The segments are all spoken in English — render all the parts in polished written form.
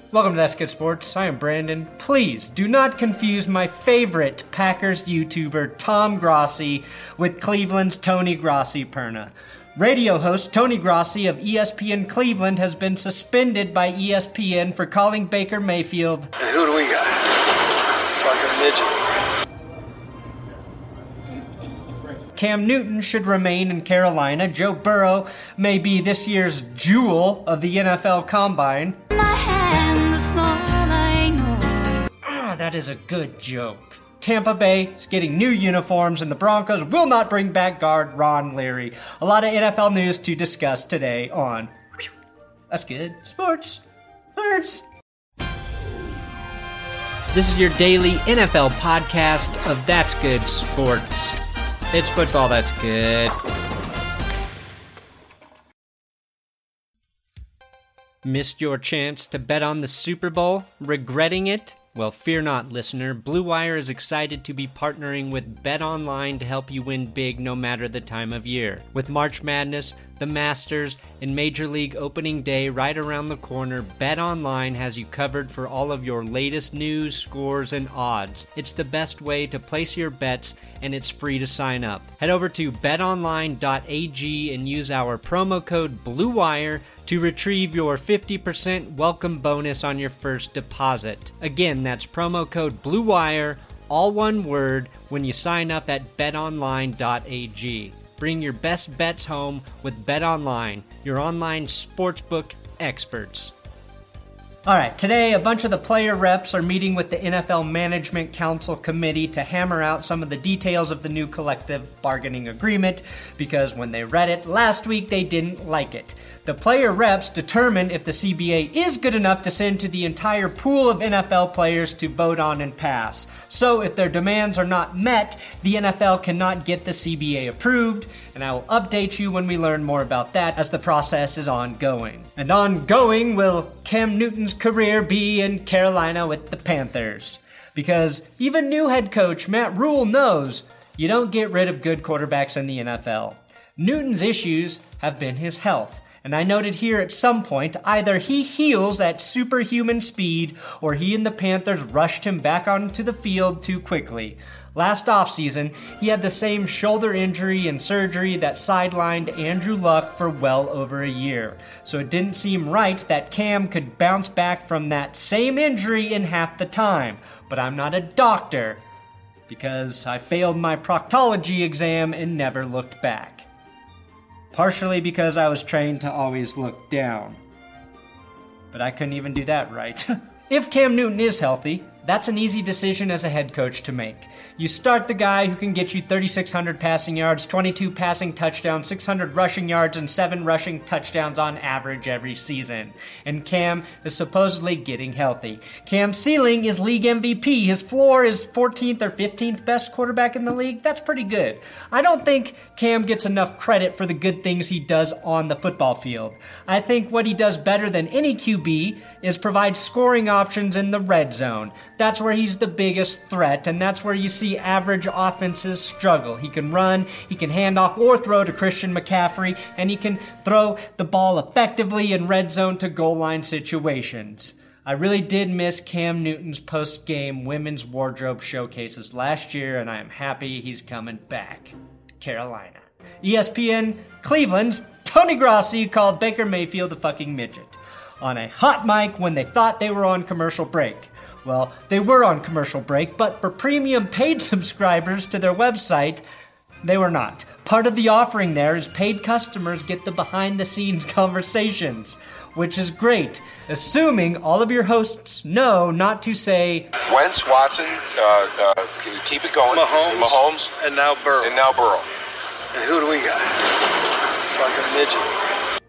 Welcome to That's Good Sports. I am Brandon. Please do not confuse my favorite Packers YouTuber, Tom Grossi, with Cleveland's Tony Grossi-Perna. Radio host Tony Grossi of ESPN Cleveland has been suspended by ESPN for calling Baker Mayfield. And who do we got? Fucking midget. Cam Newton should remain in Carolina. Joe Burrow may be this year's jewel of the NFL Combine. That is a good joke. Tampa Bay is getting new uniforms, and the Broncos will not bring back guard Ron Leary. A lot of NFL news to discuss today on That's Good Sports. This is your daily NFL podcast of That's Good Sports. It's football that's good. Missed your chance to bet on the Super Bowl? Regretting it? Well, fear not, listener. Blue Wire is excited to be partnering with BetOnline to help you win big no matter the time of year. With March Madness, the Masters, and Major League Opening Day right around the corner, BetOnline has you covered for all of your latest news, scores, and odds. It's the best way to place your bets, and it's free to sign up. Head over to betonline.ag and use our promo code BLUEWIRE to retrieve your 50% welcome bonus on your first deposit. Again, that's promo code BLUEWIRE, all one word, when you sign up at betonline.ag. Bring your best bets home with BetOnline, your online sportsbook experts. All right, today a bunch of the player reps are meeting with the NFL Management Council Committee to hammer out some of the details of the new collective bargaining agreement, because when they read it last week, they didn't like it. The player reps determined if the CBA is good enough to send to the entire pool of NFL players to vote on and pass. So if their demands are not met, the NFL cannot get the CBA approved, and I will update you when we learn more about that as the process is ongoing. And ongoing will Cam Newton's career be in Carolina with the Panthers. Because even new head coach Matt Rule knows you don't get rid of good quarterbacks in the NFL. Newton's issues have been his health. And I noted here at some point, either he heals at superhuman speed or he and the Panthers rushed him back onto the field too quickly. Last offseason, he had the same shoulder injury and surgery that sidelined Andrew Luck for well over a year. So it didn't seem right that Cam could bounce back from that same injury in half the time. But I'm not a doctor, because I failed my proctology exam and never looked back. Partially because I was trained to always look down. But I couldn't even do that right. If Cam Newton is healthy, that's an easy decision as a head coach to make. You start the guy who can get you 3,600 passing yards, 22 passing touchdowns, 600 rushing yards, and 7 rushing touchdowns on average every season. And Cam is supposedly getting healthy. Cam's ceiling is league MVP. His floor is 14th or 15th best quarterback in the league. That's pretty good. I don't think Cam gets enough credit for the good things he does on the football field. I think what he does better than any QB is provide scoring options in the red zone. That's where he's the biggest threat, and that's where you see average offenses struggle. He can run, he can hand off or throw to Christian McCaffrey, and he can throw the ball effectively in red zone to goal line situations. I really did miss Cam Newton's post-game women's wardrobe showcases last year, and I am happy he's coming back to Carolina. ESPN Cleveland's Tony Grossi called Baker Mayfield a fucking midget on a hot mic when they thought they were on commercial break. Well, they were on commercial break, but for premium paid subscribers to their website, they were not. Part of the offering there is paid customers get the behind-the-scenes conversations, which is great, assuming all of your hosts know not to say Wentz, Watson, can you keep it going? Mahomes, and now Burrow. And who do we got? Fucking midget.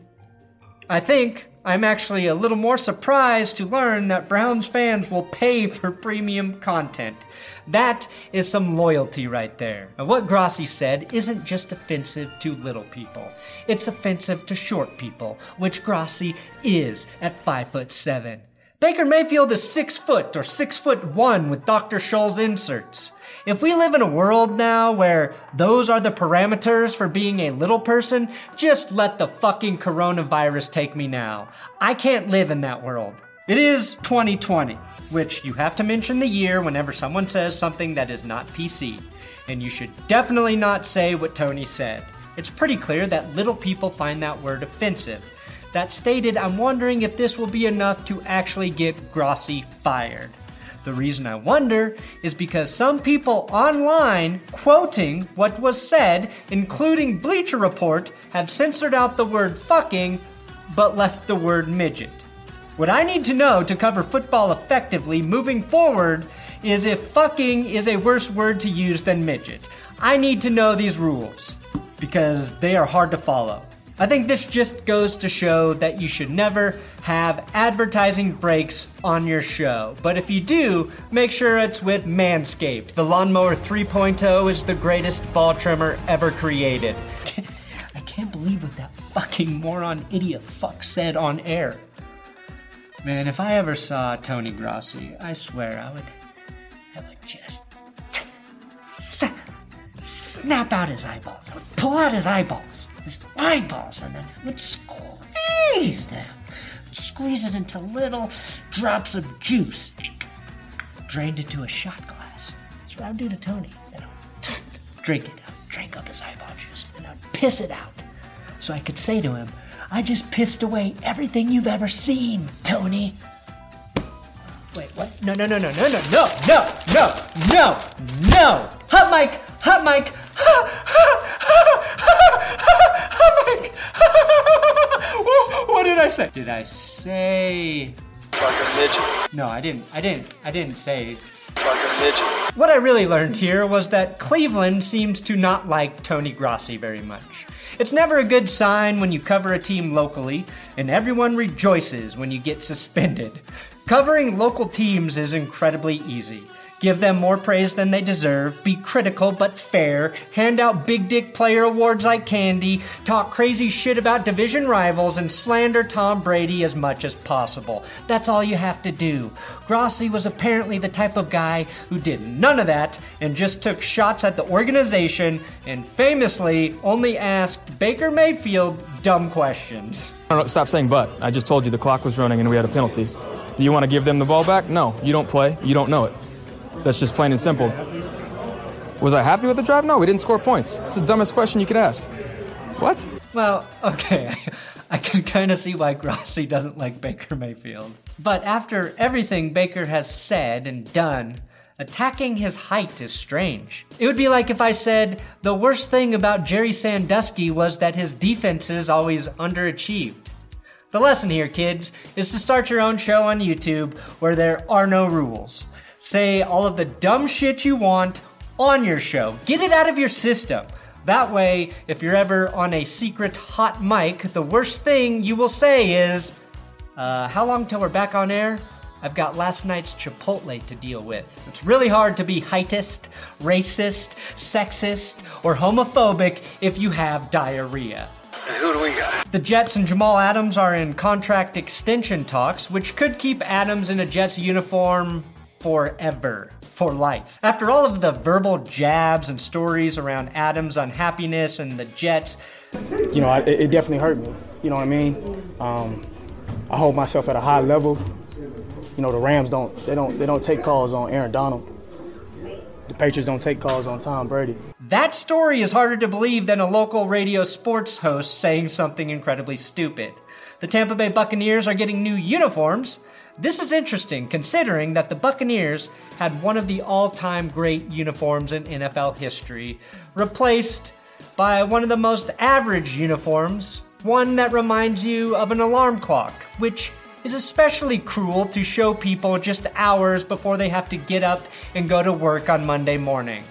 I think I'm actually a little more surprised to learn that Browns fans will pay for premium content. That is some loyalty right there. And what Grossi said isn't just offensive to little people. It's offensive to short people, which Grossi is at 5'7". Baker Mayfield is 6 foot or 6'1" with Dr. Scholl's inserts. If we live in a world now where those are the parameters for being a little person, just let the fucking coronavirus take me now. I can't live in that world. It is 2020, which you have to mention the year whenever someone says something that is not PC. And you should definitely not say what Tony said. It's pretty clear that little people find that word offensive. That stated, I'm wondering if this will be enough to actually get Grossi fired. The reason I wonder is because some people online quoting what was said, including Bleacher Report, have censored out the word fucking, but left the word midget. What I need to know to cover football effectively moving forward is if fucking is a worse word to use than midget. I need to know these rules, because they are hard to follow. I think this just goes to show that you should never have advertising breaks on your show. But if you do, make sure it's with Manscaped. The Lawnmower 3.0 is the greatest ball trimmer ever created. I can't believe what that fucking moron idiot fuck said on air. Man, if I ever saw Tony Grossi, I swear I would just snap out his eyeballs. I would pull out his eyeballs, and then I would squeeze them. Squeeze it into little drops of juice, drained into a shot glass. That's what I would do to Tony. Then I would drink it. I would drink up his eyeball juice, and then I would piss it out. So I could say to him, I just pissed away everything you've ever seen, Tony. Wait, what? No. Hot mic. What did I say? Did I say Fucking midget. No, I didn't say Fucking midget. What I really learned here was that Cleveland seems to not like Tony Grossi very much. It's never a good sign when you cover a team locally, and everyone rejoices when you get suspended. Covering local teams is incredibly easy. Give them more praise than they deserve, be critical but fair, hand out big dick player awards like candy, talk crazy shit about division rivals, and slander Tom Brady as much as possible. That's all you have to do. Grossi was apparently the type of guy who did none of that and just took shots at the organization and famously only asked Baker Mayfield dumb questions. Stop saying but. I just told you the clock was running and we had a penalty. Do you want to give them the ball back? No, you don't play. You don't know it. That's just plain and simple. Was I happy with the drive? No, we didn't score points. It's the dumbest question you could ask. What? Well, okay, I can kind of see why Grossi doesn't like Baker Mayfield. But after everything Baker has said and done, attacking his height is strange. It would be like if I said the worst thing about Jerry Sandusky was that his defenses always underachieved. The lesson here, kids, is to start your own show on YouTube where there are no rules. Say all of the dumb shit you want on your show. Get it out of your system. That way, if you're ever on a secret hot mic, the worst thing you will say is, how long till we're back on air? I've got last night's Chipotle to deal with. It's really hard to be heightist, racist, sexist, or homophobic if you have diarrhea. And who do we got? The Jets and Jamal Adams are in contract extension talks, which could keep Adams in a Jets uniform forever, for life. After all of the verbal jabs and stories around Adams' unhappiness and the Jets, it definitely hurt me. You know what I mean? I hold myself at a high level. The Rams don't take calls on Aaron Donald. The Patriots don't take calls on Tom Brady. That story is harder to believe than a local radio sports host saying something incredibly stupid. The Tampa Bay Buccaneers are getting new uniforms. This is interesting, considering that the Buccaneers had one of the all-time great uniforms in NFL history, replaced by one of the most average uniforms, one that reminds you of an alarm clock, which is especially cruel to show people just hours before they have to get up and go to work on Monday morning.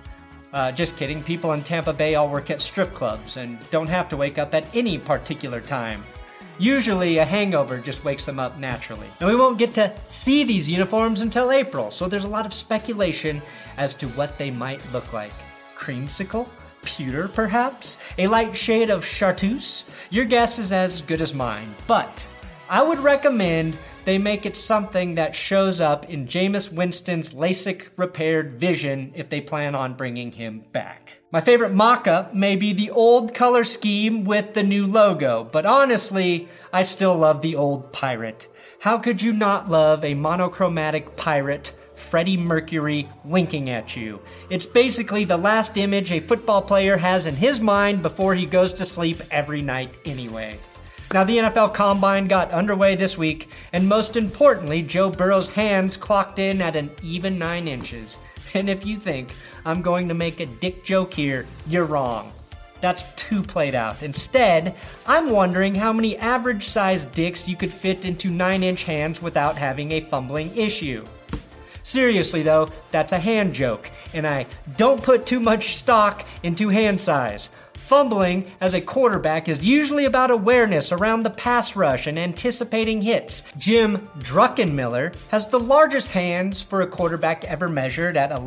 Just kidding, people in Tampa Bay all work at strip clubs and don't have to wake up at any particular time. Usually a hangover just wakes them up naturally. And we won't get to see these uniforms until April, so there's a lot of speculation as to what they might look like. Creamsicle? Pewter, perhaps? A light shade of chartreuse? Your guess is as good as mine, but I would recommend they make it something that shows up in Jameis Winston's LASIK-repaired vision if they plan on bringing him back. My favorite mock-up may be the old color scheme with the new logo, but honestly, I still love the old pirate. How could you not love a monochromatic pirate, Freddie Mercury, winking at you? It's basically the last image a football player has in his mind before he goes to sleep every night anyway. Now, the NFL Combine got underway this week, and most importantly, Joe Burrow's hands clocked in at an even 9 inches. And if you think I'm going to make a dick joke here, you're wrong. That's too played out. Instead, I'm wondering how many average-sized dicks you could fit into 9-inch hands without having a fumbling issue. Seriously though, that's a hand joke, and I don't put too much stock into hand size. Fumbling as a quarterback is usually about awareness around the pass rush and anticipating hits. Jim Druckenmiller has the largest hands for a quarterback ever measured at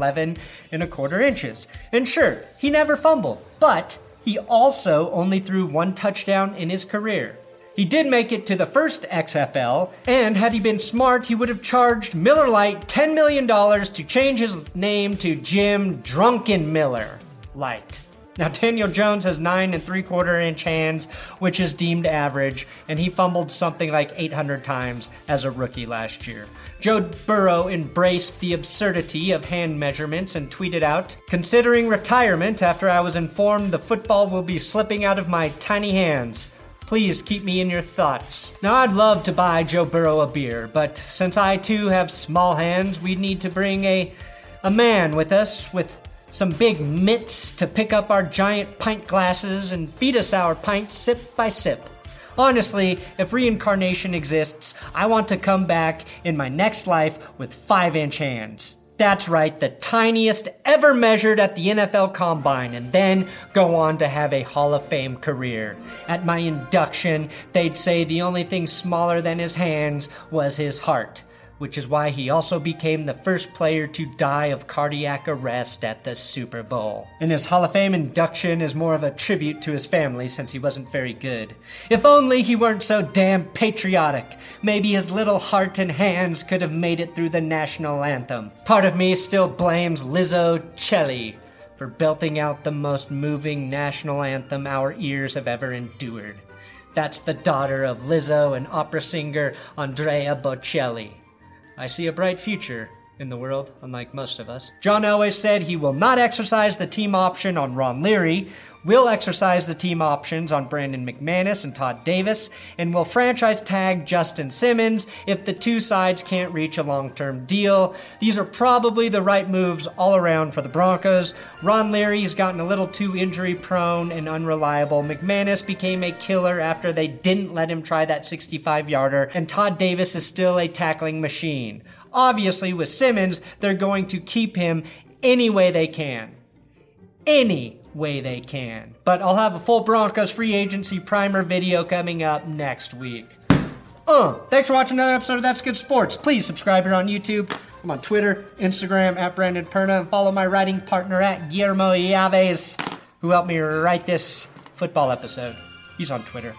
11.25 inches. And sure, he never fumbled, but he also only threw 1 touchdown in his career. He did make it to the first XFL, and had he been smart, he would have charged Miller Lite $10 million to change his name to Jim Drunkenmiller Lite. Now, Daniel Jones has 9.75-inch hands, which is deemed average, and he fumbled something like 800 times as a rookie last year. Joe Burrow embraced the absurdity of hand measurements and tweeted out, "Considering retirement after I was informed the football will be slipping out of my tiny hands. Please keep me in your thoughts." Now, I'd love to buy Joe Burrow a beer, but since I too have small hands, we'd need to bring a man with us with some big mitts to pick up our giant pint glasses and feed us our pints sip by sip. Honestly, if reincarnation exists, I want to come back in my next life with 5-inch hands. That's right, the tiniest ever measured at the NFL Combine, and then go on to have a Hall of Fame career. At my induction, they'd say the only thing smaller than his hands was his heart, which is why he also became the first player to die of cardiac arrest at the Super Bowl. And his Hall of Fame induction is more of a tribute to his family since he wasn't very good. If only he weren't so damn patriotic. Maybe his little heart and hands could have made it through the national anthem. Part of me still blames Lizzo Celli for belting out the most moving national anthem our ears have ever endured. That's the daughter of Lizzo and opera singer Andrea Bocelli. I see a bright future in the world, unlike most of us. John Elway said he will not exercise the team option on Ron Leary, will exercise the team options on Brandon McManus and Todd Davis, and will franchise tag Justin Simmons if the two sides can't reach a long-term deal. These are probably the right moves all around for the Broncos. Ron Leary has gotten a little too injury-prone and unreliable. McManus became a killer after they didn't let him try that 65-yarder, and Todd Davis is still a tackling machine. Obviously, with Simmons, they're going to keep him any way they can. Any way they can. But I'll have a full Broncos free agency primer video coming up next week. Thanks for watching another episode of That's Good Sports. Please subscribe here on YouTube. I'm on Twitter, Instagram, at Brandon Perna, and follow my writing partner at Guillermo Yaves, who helped me write this football episode. He's on Twitter.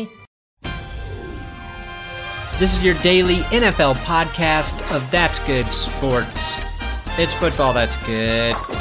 This is your daily NFL podcast of That's Good Sports. It's football that's good.